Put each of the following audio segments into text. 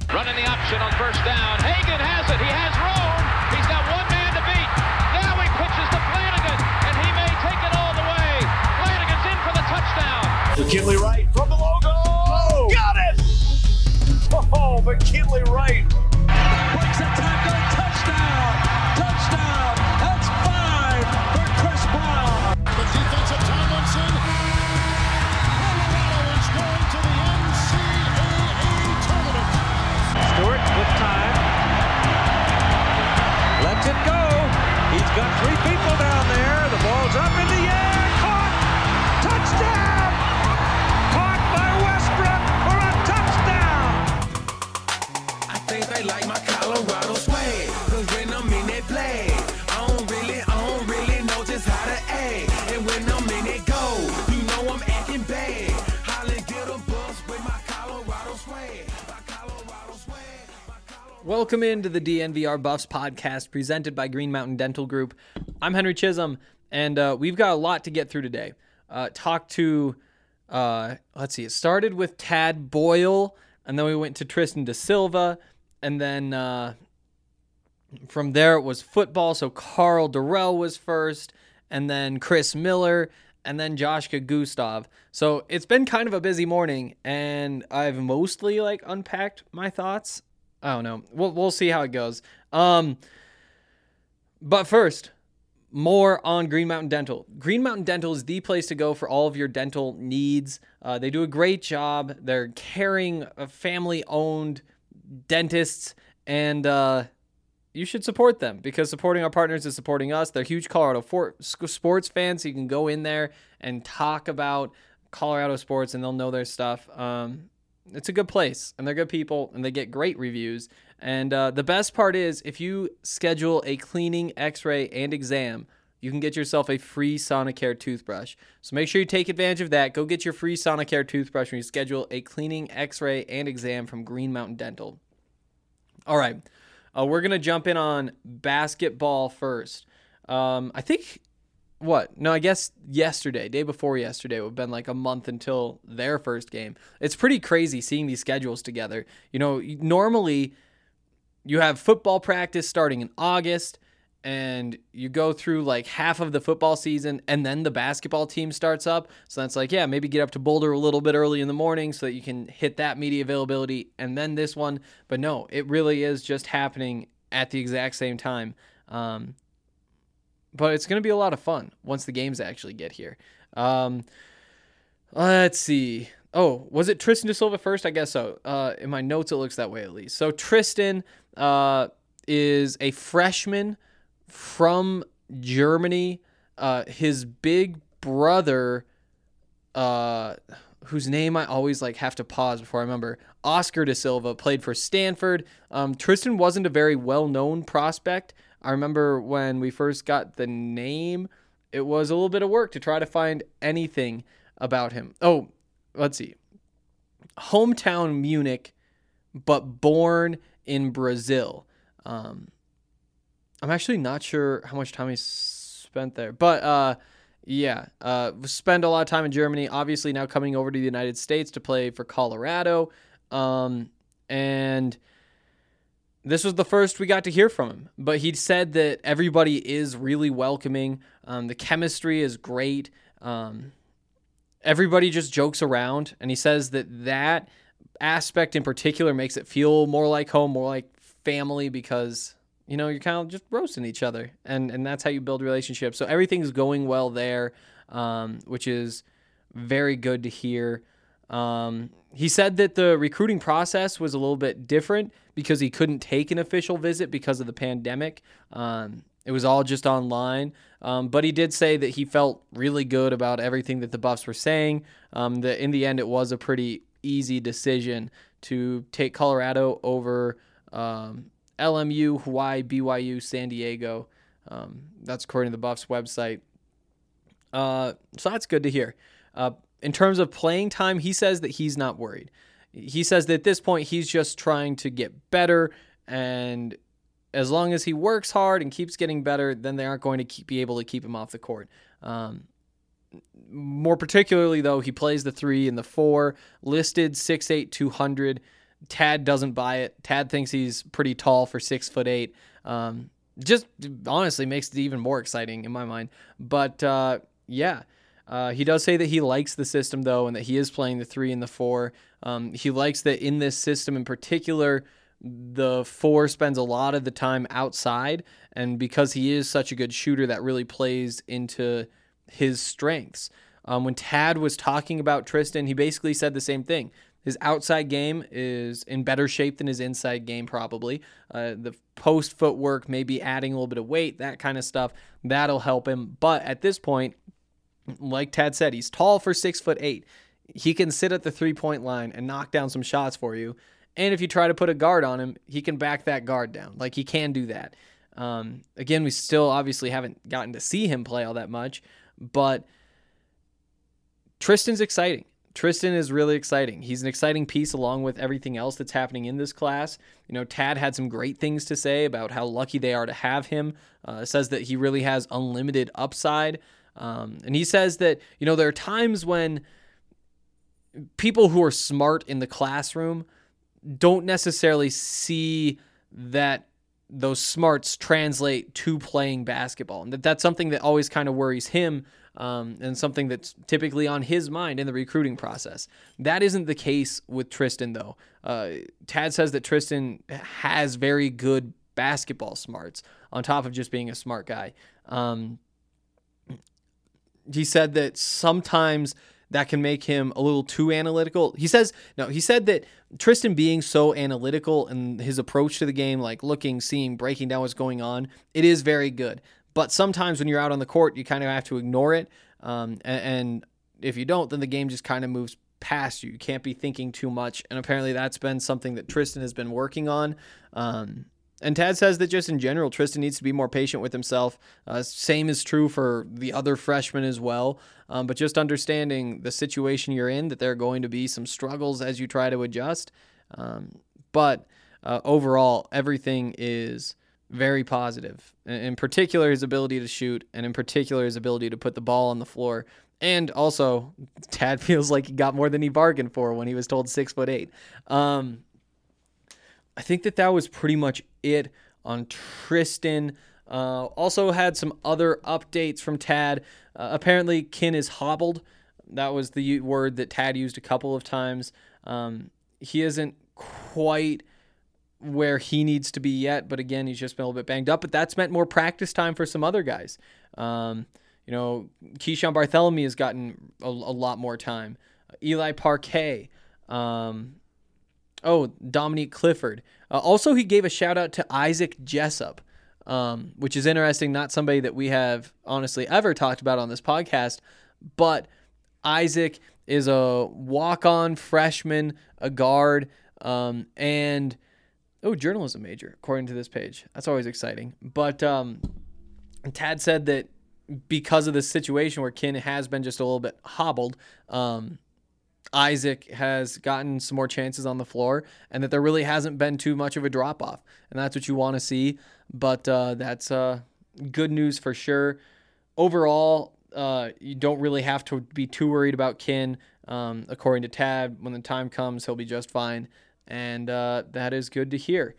Running the option on first down. Hagan has it. He has room. He's got one man to beat. Now he pitches to Flanagan, and he may take it all the way. Flanagan's in for the touchdown. McKinley Wright from the logo. Oh, got it! Oh, McKinley Wright. Breaks a tackle. Touchdown. Touchdown. That's 5 for Chris Brown. The defensive Tomlinson. Colorado is going to the NCAA tournament. Stewart with time. Lets it go. He's got 3 people down there. The ball's up in the air. Caught. Touchdown. Caught by Westbrook for a touchdown. I think they like my Colorado swag. Cause when I'm in that play, I don't really know just how to act. And when I'm in it go, you know I'm acting bad. Holly get a bus with my Colorado swag. Welcome into the DNVR Buffs podcast presented by Green Mountain Dental Group. I'm Henry Chisholm, and we've got a lot to get through today. It started with Tad Boyle, and then we went to Tristan Da Silva, and then from there it was football, so Carl Durrell was first, and then Chris Miller, and then Joshka Gustav. So it's been kind of a busy morning, and I've mostly unpacked my thoughts. I don't know. We'll see how it goes. But first, more on Green Mountain Dental. Green Mountain Dental is the place to go for all of your dental needs. They do a great job. They're caring, family-owned dentists, and you should support them because supporting our partners is supporting us. They're huge Colorado sports fans, so you can go in there and talk about Colorado sports, and they'll know their stuff. It's a good place, and they're good people, and they get great reviews. And the best part is, if you schedule a cleaning, x-ray, and exam, you can get yourself a free Sonicare toothbrush. So make sure you take advantage of that. Go get your free Sonicare toothbrush when you schedule a cleaning, x-ray, and exam from Green Mountain Dental. All right, we're going to jump in on basketball first. I guess day before yesterday would have been like a month until their first game. It's pretty crazy seeing these schedules together. You know, normally you have football practice starting in August, and you go through like half of the football season, and then the basketball team starts up. So that's maybe get up to Boulder a little bit early in the morning so that you can hit that media availability, and then this one. But no, it really is just happening at the exact same time. But it's going to be a lot of fun once the games actually get here. Let's see. Oh, was it Tristan Da Silva first? I guess so. In my notes, it looks that way at least. So Tristan is a freshman from Germany. His big brother, whose name I always have to pause before I remember, Oscar Da Silva, played for Stanford. Tristan wasn't a very well-known prospect. I remember when we first got the name, it was a little bit of work to try to find anything about him. Oh, let's see. Hometown Munich, but born in Brazil. I'm actually not sure how much time he spent there, but spent a lot of time in Germany, obviously now coming over to the United States to play for Colorado. And this was the first we got to hear from him, but he said that everybody is really welcoming. The chemistry is great. Everybody just jokes around, and he says that aspect in particular makes it feel more like home, more like family, because you're kind of just roasting each other, and that's how you build relationships. So everything's going well there, which is very good to hear. He said that the recruiting process was a little bit different because he couldn't take an official visit because of the pandemic. It was all just online. But he did say that he felt really good about everything that the Buffs were saying. That in the end, it was a pretty easy decision to take Colorado over LMU, Hawaii, BYU, San Diego. That's according to the Buffs website. So that's good to hear. In terms of playing time, he says that he's not worried. He says that at this point, he's just trying to get better, and as long as he works hard and keeps getting better, then they aren't going to be able to keep him off the court. More particularly, though, he plays the 3 and the 4, listed 6'8", 200. Tad doesn't buy it. Tad thinks he's pretty tall for 6'8". Just honestly makes it even more exciting in my mind. But he does say that he likes the system though, and that he is playing the 3 and the 4. He likes that in this system in particular, the 4 spends a lot of the time outside, and because he is such a good shooter, that really plays into his strengths. When Tad was talking about Tristan, he basically said the same thing. His outside game is in better shape than his inside game, probably. The post footwork, maybe adding a little bit of weight, that kind of stuff, that'll help him. But at this point, like Tad said, he's tall for 6'8". He can sit at the 3-point line and knock down some shots for you. And if you try to put a guard on him, he can back that guard down. Like, he can do that. Again, we still obviously haven't gotten to see him play all that much, but Tristan's exciting. Tristan is really exciting. He's an exciting piece along with everything else that's happening in this class. Tad had some great things to say about how lucky they are to have him. Says that he really has unlimited upside. And he says that, there are times when people who are smart in the classroom don't necessarily see that those smarts translate to playing basketball. And that's something that always kind of worries him, and something that's typically on his mind in the recruiting process. That isn't the case with Tristan, though. Tad says that Tristan has very good basketball smarts on top of just being a smart guy. He said that sometimes that can make him a little too analytical. He said that Tristan being so analytical and his approach to the game, like looking, seeing, breaking down what's going on, it is very good. But sometimes when you're out on the court, you kind of have to ignore it. And if you don't, then the game just kind of moves past you. You can't be thinking too much. And apparently that's been something that Tristan has been working on. And Tad says that just in general, Tristan needs to be more patient with himself. Same is true for the other freshmen as well. But just understanding the situation you're in, that there are going to be some struggles as you try to adjust. But overall, everything is very positive. In particular, his ability to shoot, and in particular, his ability to put the ball on the floor. And also, Tad feels like he got more than he bargained for when he was told 6'8". I think that was pretty much it on Tristan. Also had some other updates from Tad. Apparently, Kin is hobbled. That was the word that Tad used a couple of times. He isn't quite where he needs to be yet, but again, he's just been a little bit banged up. But that's meant more practice time for some other guys. Keyshawn Bartholomew has gotten a lot more time. Eli Parquet. Dominique Clifford. Also, he gave a shout out to Isaac Jessup, which is interesting. Not somebody that we have honestly ever talked about on this podcast, but Isaac is a walk-on freshman, a guard, and journalism major, according to this page. That's always exciting. But Tad said that because of this situation where Kin has been just a little bit hobbled, Isaac has gotten some more chances on the floor, and that there really hasn't been too much of a drop-off. And that's what you want to see, but that's good news for sure. Overall, you don't really have to be too worried about Kin. According to Tad, when the time comes, he'll be just fine, and that is good to hear.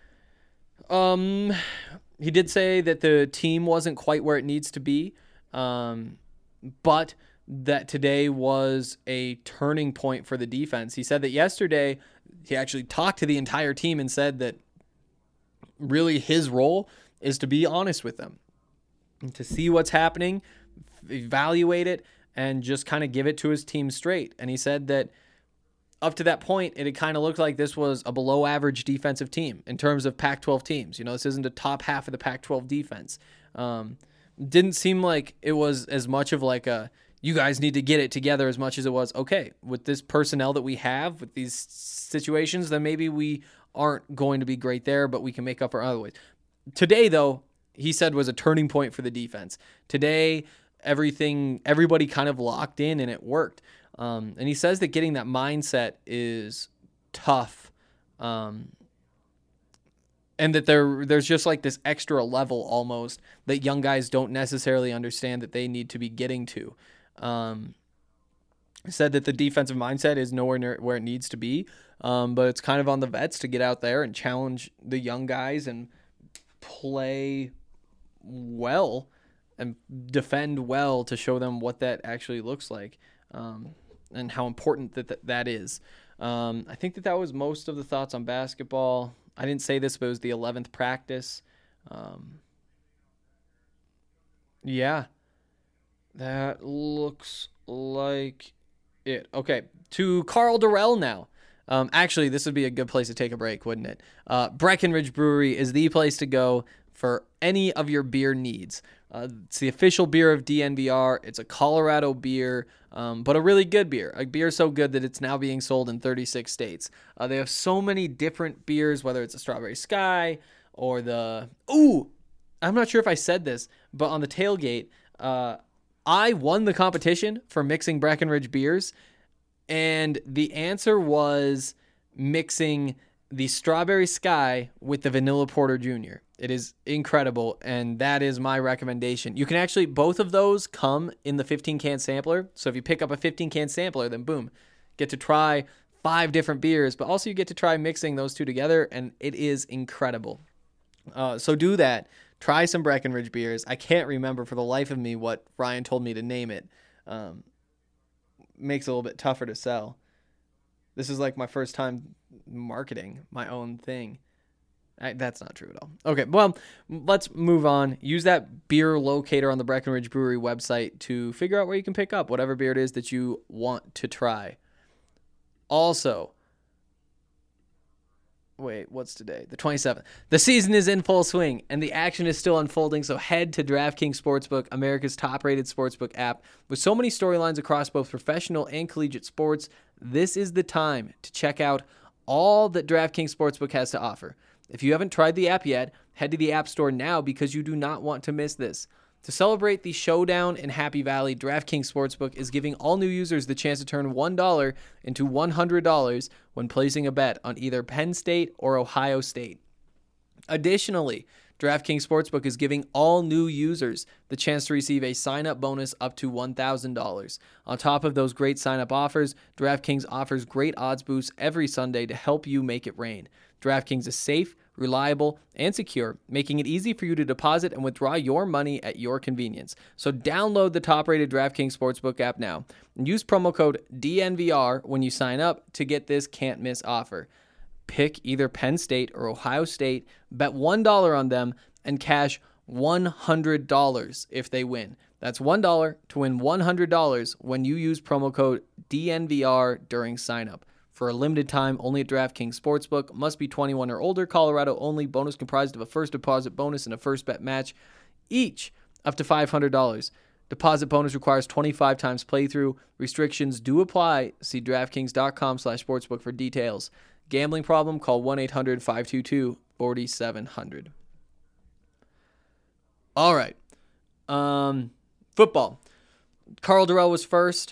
He did say that the team wasn't quite where it needs to be, but that today was a turning point for the defense. He said that yesterday he actually talked to the entire team and said that really his role is to be honest with them, to see what's happening, evaluate it, and just kind of give it to his team straight. And he said that up to that point, it had kind of looked like this was a below average defensive team in terms of Pac-12 teams. This isn't a top half of the Pac-12 defense. Didn't seem like it was as much of like a, you guys need to get it together, as much as it was, okay, with this personnel that we have, with these situations, then maybe we aren't going to be great there, but we can make up for other ways. Today, though, he said was a turning point for the defense. Today, everybody kind of locked in and it worked. And he says that getting that mindset is tough. And that there's just like this extra level almost that young guys don't necessarily understand that they need to be getting to. Said that the defensive mindset is nowhere near where it needs to be, But it's kind of on the vets to get out there and challenge the young guys and play well and defend well to show them what that actually looks like, and how important that is. I think that was most of the thoughts on basketball. I didn't say this, but it was the 11th practice. Yeah, that looks like it. Okay, to Karl Dorrell now. Actually, this would be a good place to take a break, wouldn't it? Breckenridge Brewery is the place to go for any of your beer needs. It's the official beer of DNVR. It's a Colorado beer, but a really good beer. A beer so good that it's now being sold in 36 states. They have so many different beers, whether it's a Strawberry Sky or the... Ooh! I'm not sure if I said this, but on the tailgate, I won the competition for mixing Breckenridge beers, and the answer was mixing the Strawberry Sky with the Vanilla Porter Jr. It is incredible, and that is my recommendation. You can actually, both of those come in the 15-can sampler, so if you pick up a 15-can sampler, then boom, get to try 5 different beers, but also you get to try mixing those two together, and it is incredible. So do that. Try some Breckenridge beers. I can't remember for the life of me what Ryan told me to name it. Makes it a little bit tougher to sell. This is like my first time marketing my own thing. That's not true at all. Okay, well, let's move on. Use that beer locator on the Breckenridge Brewery website to figure out where you can pick up whatever beer it is that you want to try. Also, wait, what's today? The 27th. The season is in full swing, and the action is still unfolding, so head to DraftKings Sportsbook, America's top-rated sportsbook app. With so many storylines across both professional and collegiate sports, this is the time to check out all that DraftKings Sportsbook has to offer. If you haven't tried the app yet, head to the App Store now because you do not want to miss this. To celebrate the showdown in Happy Valley, DraftKings Sportsbook is giving all new users the chance to turn $1 into $100 when placing a bet on either Penn State or Ohio State. Additionally, DraftKings Sportsbook is giving all new users the chance to receive a sign-up bonus up to $1,000. On top of those great sign-up offers, DraftKings offers great odds boosts every Sunday to help you make it rain. DraftKings is safe, reliable, and secure, making it easy for you to deposit and withdraw your money at your convenience. So download the top-rated DraftKings Sportsbook app now and use promo code DNVR when you sign up to get this can't-miss offer. Pick either Penn State or Ohio State, bet $1 on them, and cash $100 if they win. That's $1 to win $100 when you use promo code DNVR during sign-up. For a limited time, only at DraftKings Sportsbook. Must be 21 or older. Colorado only. Bonus comprised of a first deposit bonus and a first bet match, each up to $500. Deposit bonus requires 25 times playthrough. Restrictions do apply. See DraftKings.com/sportsbook for details. Gambling problem? Call 1-800-522-4700. All right. Football. Karl Dorrell was first.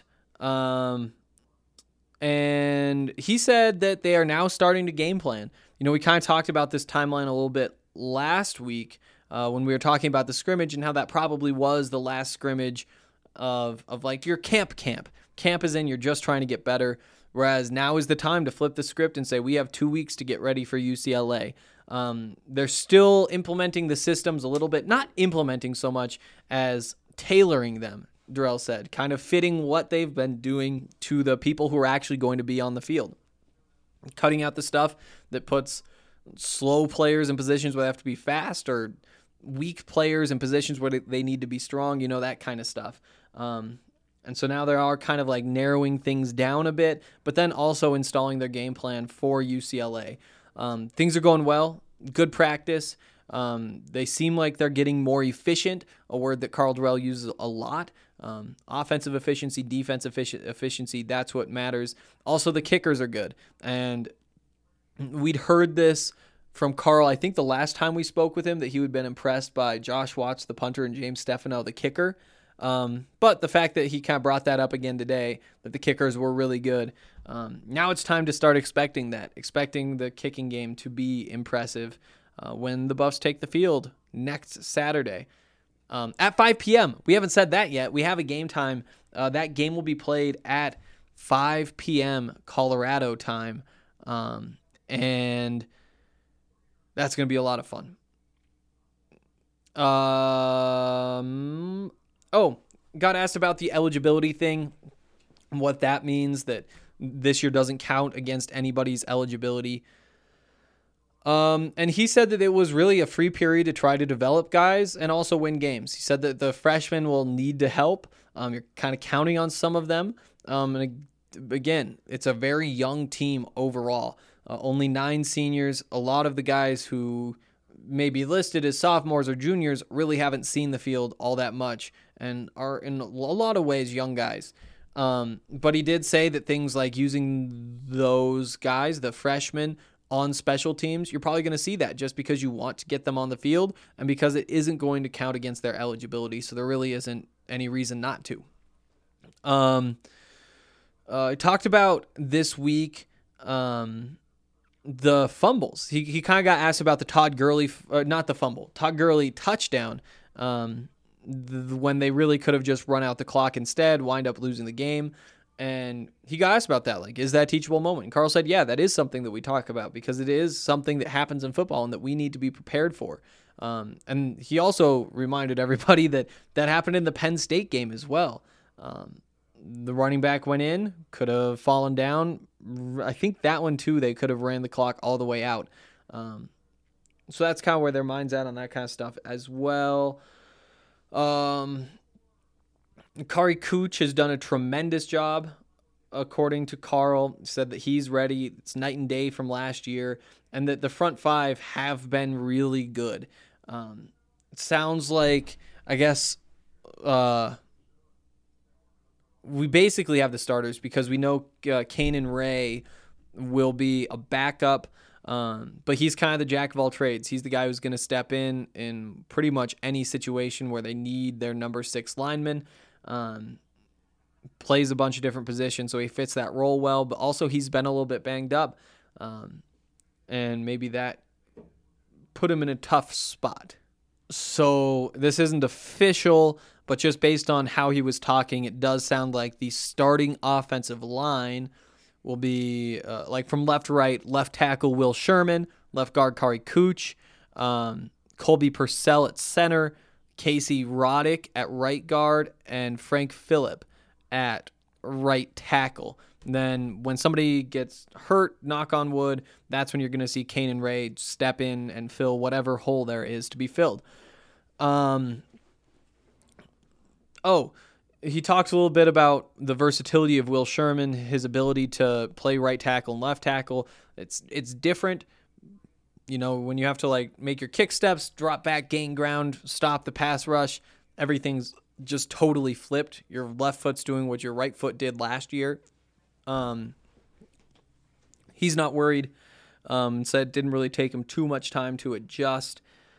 And he said that they are now starting to game plan. You know, we kind of talked about this timeline a little bit last week when we were talking about the scrimmage and how that probably was the last scrimmage of like your camp. Camp is in, you're just trying to get better, whereas now is the time to flip the script and say we have 2 weeks to get ready for UCLA. They're still implementing the systems a little bit, not implementing so much as tailoring them. Dorrell said, kind of fitting what they've been doing to the people who are actually going to be on the field. Cutting out the stuff that puts slow players in positions where they have to be fast or weak players in positions where they need to be strong, you know, that kind of stuff. And so now they are kind of like narrowing things down a bit, but then also installing their game plan for UCLA. Things are going well, good practice. They seem like they're getting more efficient, a word that Karl Dorrell uses a lot. Offensive efficiency, defensive efficiency, that's what matters. Also, the kickers are good. And we'd heard this from Karl, I think the last time we spoke with him, that he had been impressed by Josh Watts, the punter, and James Stefano, the kicker. But the fact that he kind of brought that up again today, that the kickers were really good. Now it's time to start expecting the kicking game to be impressive when the Buffs take the field next Saturday. At 5 p.m. We haven't said that yet. We have a game time. That game will be played at 5 p.m. Colorado time. And that's going to be a lot of fun. Got asked about the eligibility thing, what that means, that this year doesn't count against anybody's eligibility. And he said that it was really a free period to try to develop guys and also win games. He said that the freshmen will need to help. You're kind of counting on some of them. And again, it's a very young team overall. Only 9 seniors. A lot of the guys who may be listed as sophomores or juniors really haven't seen the field all that much and are in a lot of ways young guys. But he did say that things like using those guys, the freshmen, on special teams, you're probably going to see that just because you want to get them on the field and because it isn't going to count against their eligibility. So there really isn't any reason not to. I talked about this week the fumbles. He kind of got asked about the Todd Gurley touchdown when they really could have just run out the clock instead, wind up losing the game. And he got asked about that. Like, is that a teachable moment? And Carl said, yeah, that is something that we talk about because it is something that happens in football and that we need to be prepared for. And he also reminded everybody that happened in the Penn State game as well. The running back went in, could have fallen down. I think that one too, they could have ran the clock all the way out. So that's kind of where their mind's at on that kind of stuff as well. Kari Cooch has done a tremendous job, according to Carl. He said that he's ready. It's night and day from last year, and that the front 5 have been really good. It sounds like, I guess, we basically have the starters because we know Kanan Ray will be a backup, but he's kind of the jack of all trades. He's the guy who's going to step in pretty much any situation where they need their number 6 lineman. Plays a bunch of different positions, so he fits that role well, but also he's been a little bit banged up, and maybe that put him in a tough spot. So this isn't official, but just based on how he was talking, it does sound like the starting offensive line will be like from left to right: left tackle Will Sherman, left guard Kari Cooch, Colby Purcell at center, Casey Roddick at right guard, and Frank Phillip at right tackle. And then when somebody gets hurt, knock on wood, that's when you're going to see Kanan Ray step in and fill whatever hole there is to be filled. He talks a little bit about the versatility of Will Sherman, his ability to play right tackle and left tackle. It's different. You know, when you have to like make your kick steps, drop back, gain ground, stop the pass rush, everything's just totally flipped. Your left foot's doing what your right foot did last year. He's not worried. Said it didn't really take him too much time to adjust.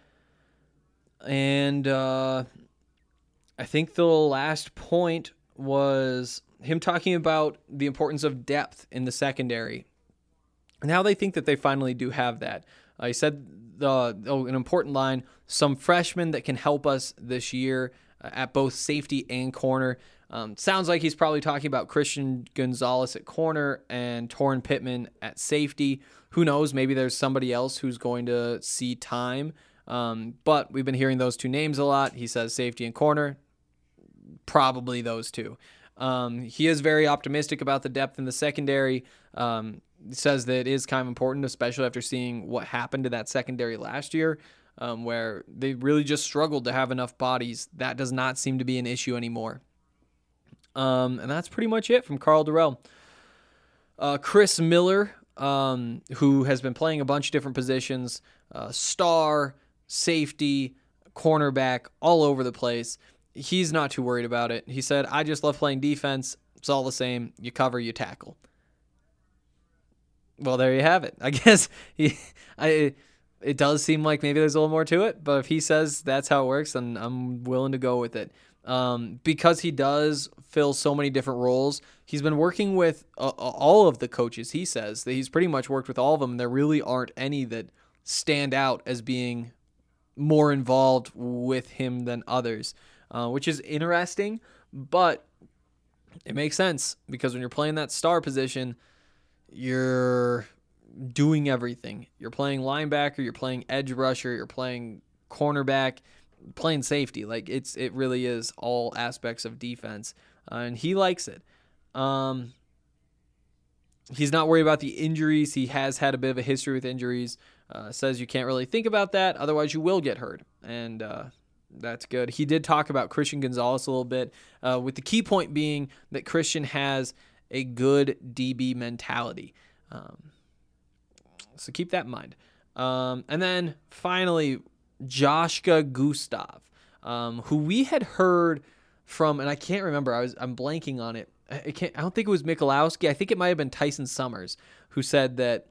And I think the last point was him talking about the importance of depth in the secondary and how they think that they finally do have that. He said an important line, some freshmen that can help us this year at both safety and corner. Sounds like he's probably talking about Christian Gonzalez at corner and Torrin Pittman at safety. Who knows? Maybe there's somebody else who's going to see time. But we've been hearing those 2 names a lot. He says safety and corner. Probably those 2. He is very optimistic about the depth in the secondary. Says that it is kind of important, especially after seeing what happened to that secondary last year, where they really just struggled to have enough bodies. That does not seem to be an issue anymore. And that's pretty much it from Karl Dorrell. Chris Miller, who has been playing a bunch of different positions, star, safety, cornerback, all over the place. He's not too worried about it. He said, I just love playing defense. It's all the same. You cover, you tackle. Well, there you have it. I guess it does seem like maybe there's a little more to it, but if he says that's how it works, then I'm willing to go with it. Because he does fill so many different roles, he's been working with all of the coaches. He says that he's pretty much worked with all of them, and there really aren't any that stand out as being more involved with him than others, which is interesting, but it makes sense because when you're playing that star position, you're doing everything. You're playing linebacker, you're playing edge rusher, you're playing cornerback, playing safety. Like it really is all aspects of defense, and he likes it. He's not worried about the injuries. He has had a bit of a history with injuries. Says you can't really think about that, otherwise you will get hurt, and that's good. He did talk about Christian Gonzalez a little bit, with the key point being that Christian has a good DB mentality. So keep that in mind. And then finally, Joshka Gustav, who we had heard from, and I can't remember. I'm blanking on it. I don't think it was Michalowski. I think it might have been Tyson Summers who said that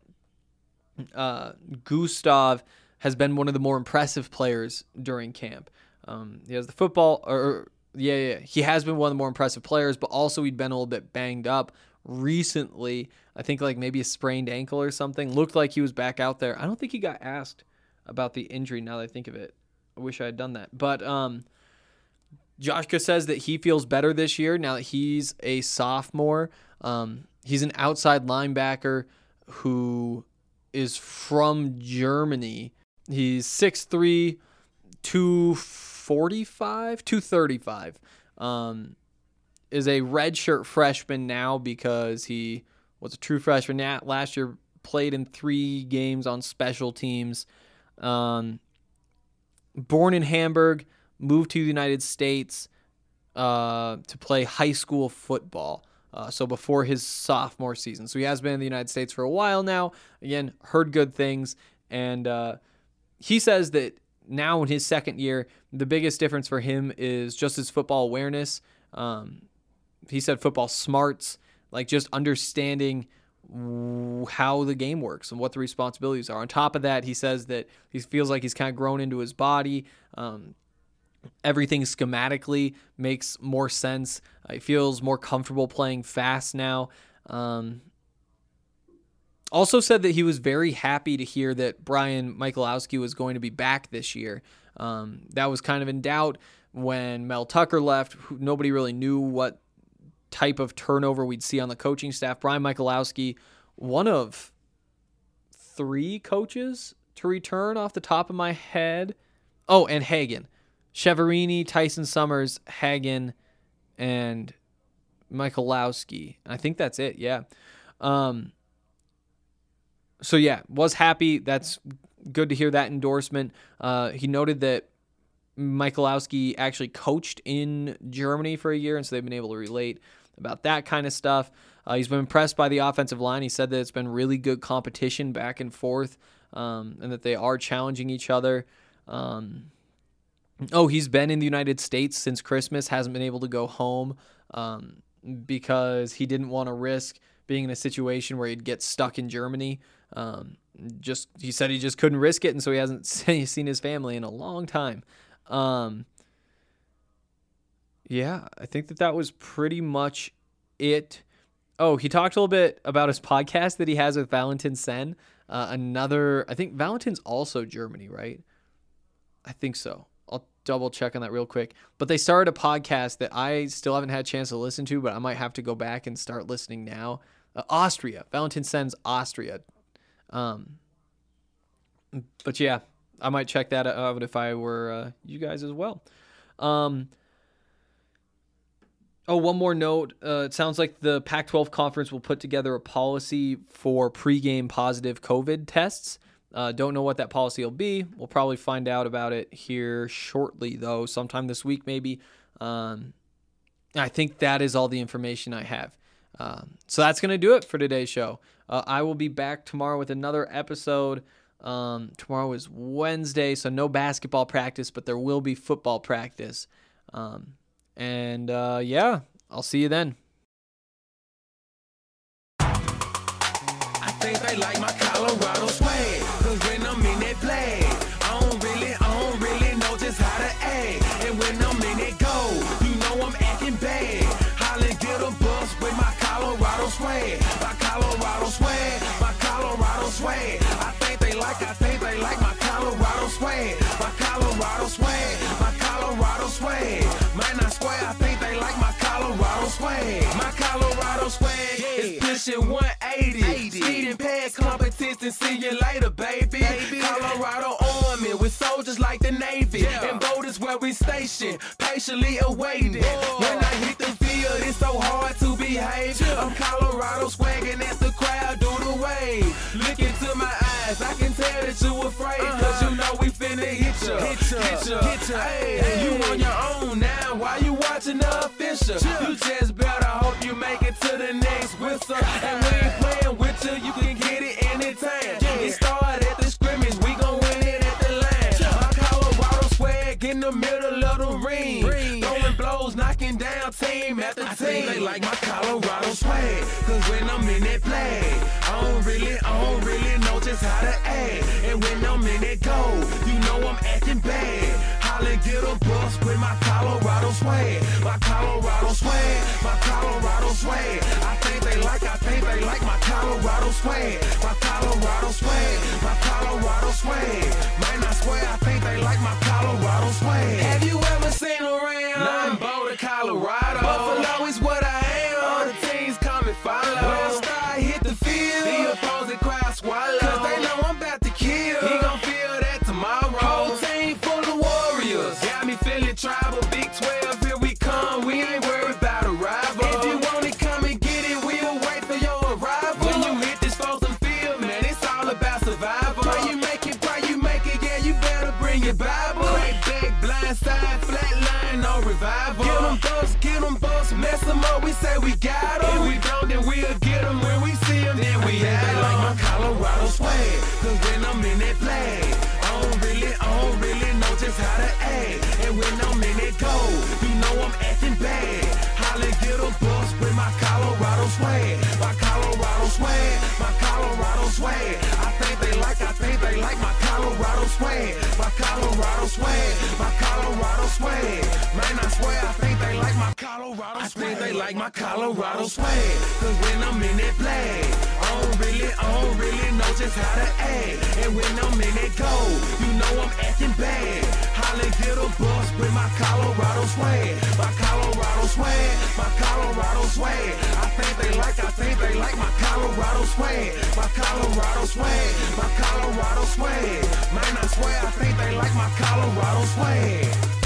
Gustav has been one of the more impressive players during camp. He has the football, he has been one of the more impressive players, but also he'd been a little bit banged up recently. I think like maybe a sprained ankle or something. Looked like he was back out there. I don't think he got asked about the injury now that I think of it. I wish I had done that. But Joshka says that he feels better this year now that he's a sophomore. He's an outside linebacker who is from Germany. He's 6'3", 235. Is a redshirt freshman now because he was a true freshman last year, played in 3 games on special teams. Born in Hamburg, moved to the United States to play high school football. So before his sophomore season. So he has been in the United States for a while now. Again, heard good things. And he says that now in his second year, the biggest difference for him is just his football awareness. He said football smarts, like just understanding how the game works and what the responsibilities are. On top of that, he says that he feels like he's kind of grown into his body. Everything schematically makes more sense. He feels more comfortable playing fast now. Also said that he was very happy to hear that Brian Michalowski was going to be back this year. That was kind of in doubt when Mel Tucker left. Nobody really knew what type of turnover we'd see on the coaching staff. Brian Michalowski, one of 3 coaches to return off the top of my head. Oh, and Hagen. Cheverini, Tyson Summers, Hagen, and Michalowski. I think that's it, yeah. So, yeah, was happy. That's good to hear that endorsement. He noted that Michalowski actually coached in Germany for a year, and so they've been able to relate about that kind of stuff. He's been impressed by the offensive line. He said that it's been really good competition back and forth, and that they are challenging each other. He's been in the United States since Christmas, hasn't been able to go home because he didn't want to risk being in a situation where he'd get stuck in Germany. He said he just couldn't risk it, and so he hasn't seen his family in a long time. Yeah, I think that was pretty much it. Oh, he talked a little bit about his podcast that he has with Valentin Sen. I think Valentin's also Germany, right? I think so. I'll double check on that real quick. But they started a podcast that I still haven't had a chance to listen to, but I might have to go back and start listening now. Austria. Valentin Sen's Austria. But yeah, I might check that out if I were you guys as well. One more note. It sounds like the Pac-12 conference will put together a policy for pregame positive COVID tests. Don't know what that policy will be. We'll probably find out about it here shortly, though, sometime this week maybe. I think that is all the information I have. So that's going to do it for today's show. I will be back tomorrow with another episode. Tomorrow is Wednesday, so no basketball practice, but there will be football practice. Yeah, I'll see you then. I think they like my Colorado swag, 'cause when I'm in that flag, I don't really know just how to act. And when I'm in that goal, you know I'm acting bad. Holla, get a bus with my Colorado swag. My Colorado swag, my Colorado swag. I think they like my Colorado swag. My Colorado swag, my Colorado swag. Man, I swear, I think they like my Colorado swag. My Colorado swag is pushing 180. Speeding past competition and see you later, baby. Colorado Army with soldiers like the Navy. And Bold is where we station, patiently awaiting. When I hit the field, it's so hard to behave. I'm Colorado swagging as the crowd do the wave. Look into my eyes, I can tell that you afraid. Cause you know we finna hit ya. Hey, you on your own now, why you watching the official? You just better hope you make it to the next whistle. And we ain't playing with you, you can get it anytime. It started at the scrimmage, we gon' win it at the line. My Colorado swag in the middle of the ring. Throwing blows, knocking down team after team. They like my Colorado swag, cause when I'm in that play, I don't really know just how to act. And when I'm in that goal, you know I'm acting bad. Holla, get a bus with my Colorado swag. My Colorado swag, my Colorado swag. I think they like my Colorado swag. My Colorado swag, my Colorado swag. Man, I swear I think they like my Colorado swag. Have you ever seen around? I'm Boulder, Colorado. Buffalo is what I am. All the teams come and follow. When I start hit the field, the opposing crowd swallow. Cause they know I'm about to kill. He gon' feel that tomorrow. Whole team full of warriors. Got me feeling tribal. Big 12, here we come. We ain't worried about a rival. If you want it, come and get it. We'll wait for your arrival. When you hit this frozen field, man, it's all about survival. Pray you make it, yeah, you better bring your Bible. Crack back, blind side, flat line, no revival. Get them busts, mess them up, we say we got them. If we don't, then we'll get them. When we see them, then we have them. Like my Colorado swag, cause when I'm in that flag, I don't really know just how to act. And when I'm in that goal, you know I'm acting bad. Holla, get a bus with my Colorado swag. My Colorado swag, my Colorado swag. I think they like my Colorado swag. My Colorado swag, my Colorado swag. Man, I swear I think they like my Colorado swag. I think they like my Colorado swag. Cause when I'm in that flag, I don't really know just how to act. And when I'm in that goal, you know I'm acting bad. Holla, get a bus with my Colorado swag. My Colorado swag, my Colorado swag. I think they like my Colorado swag. My Colorado swag, my Colorado swag. Man, I swear I think they like my Colorado swag.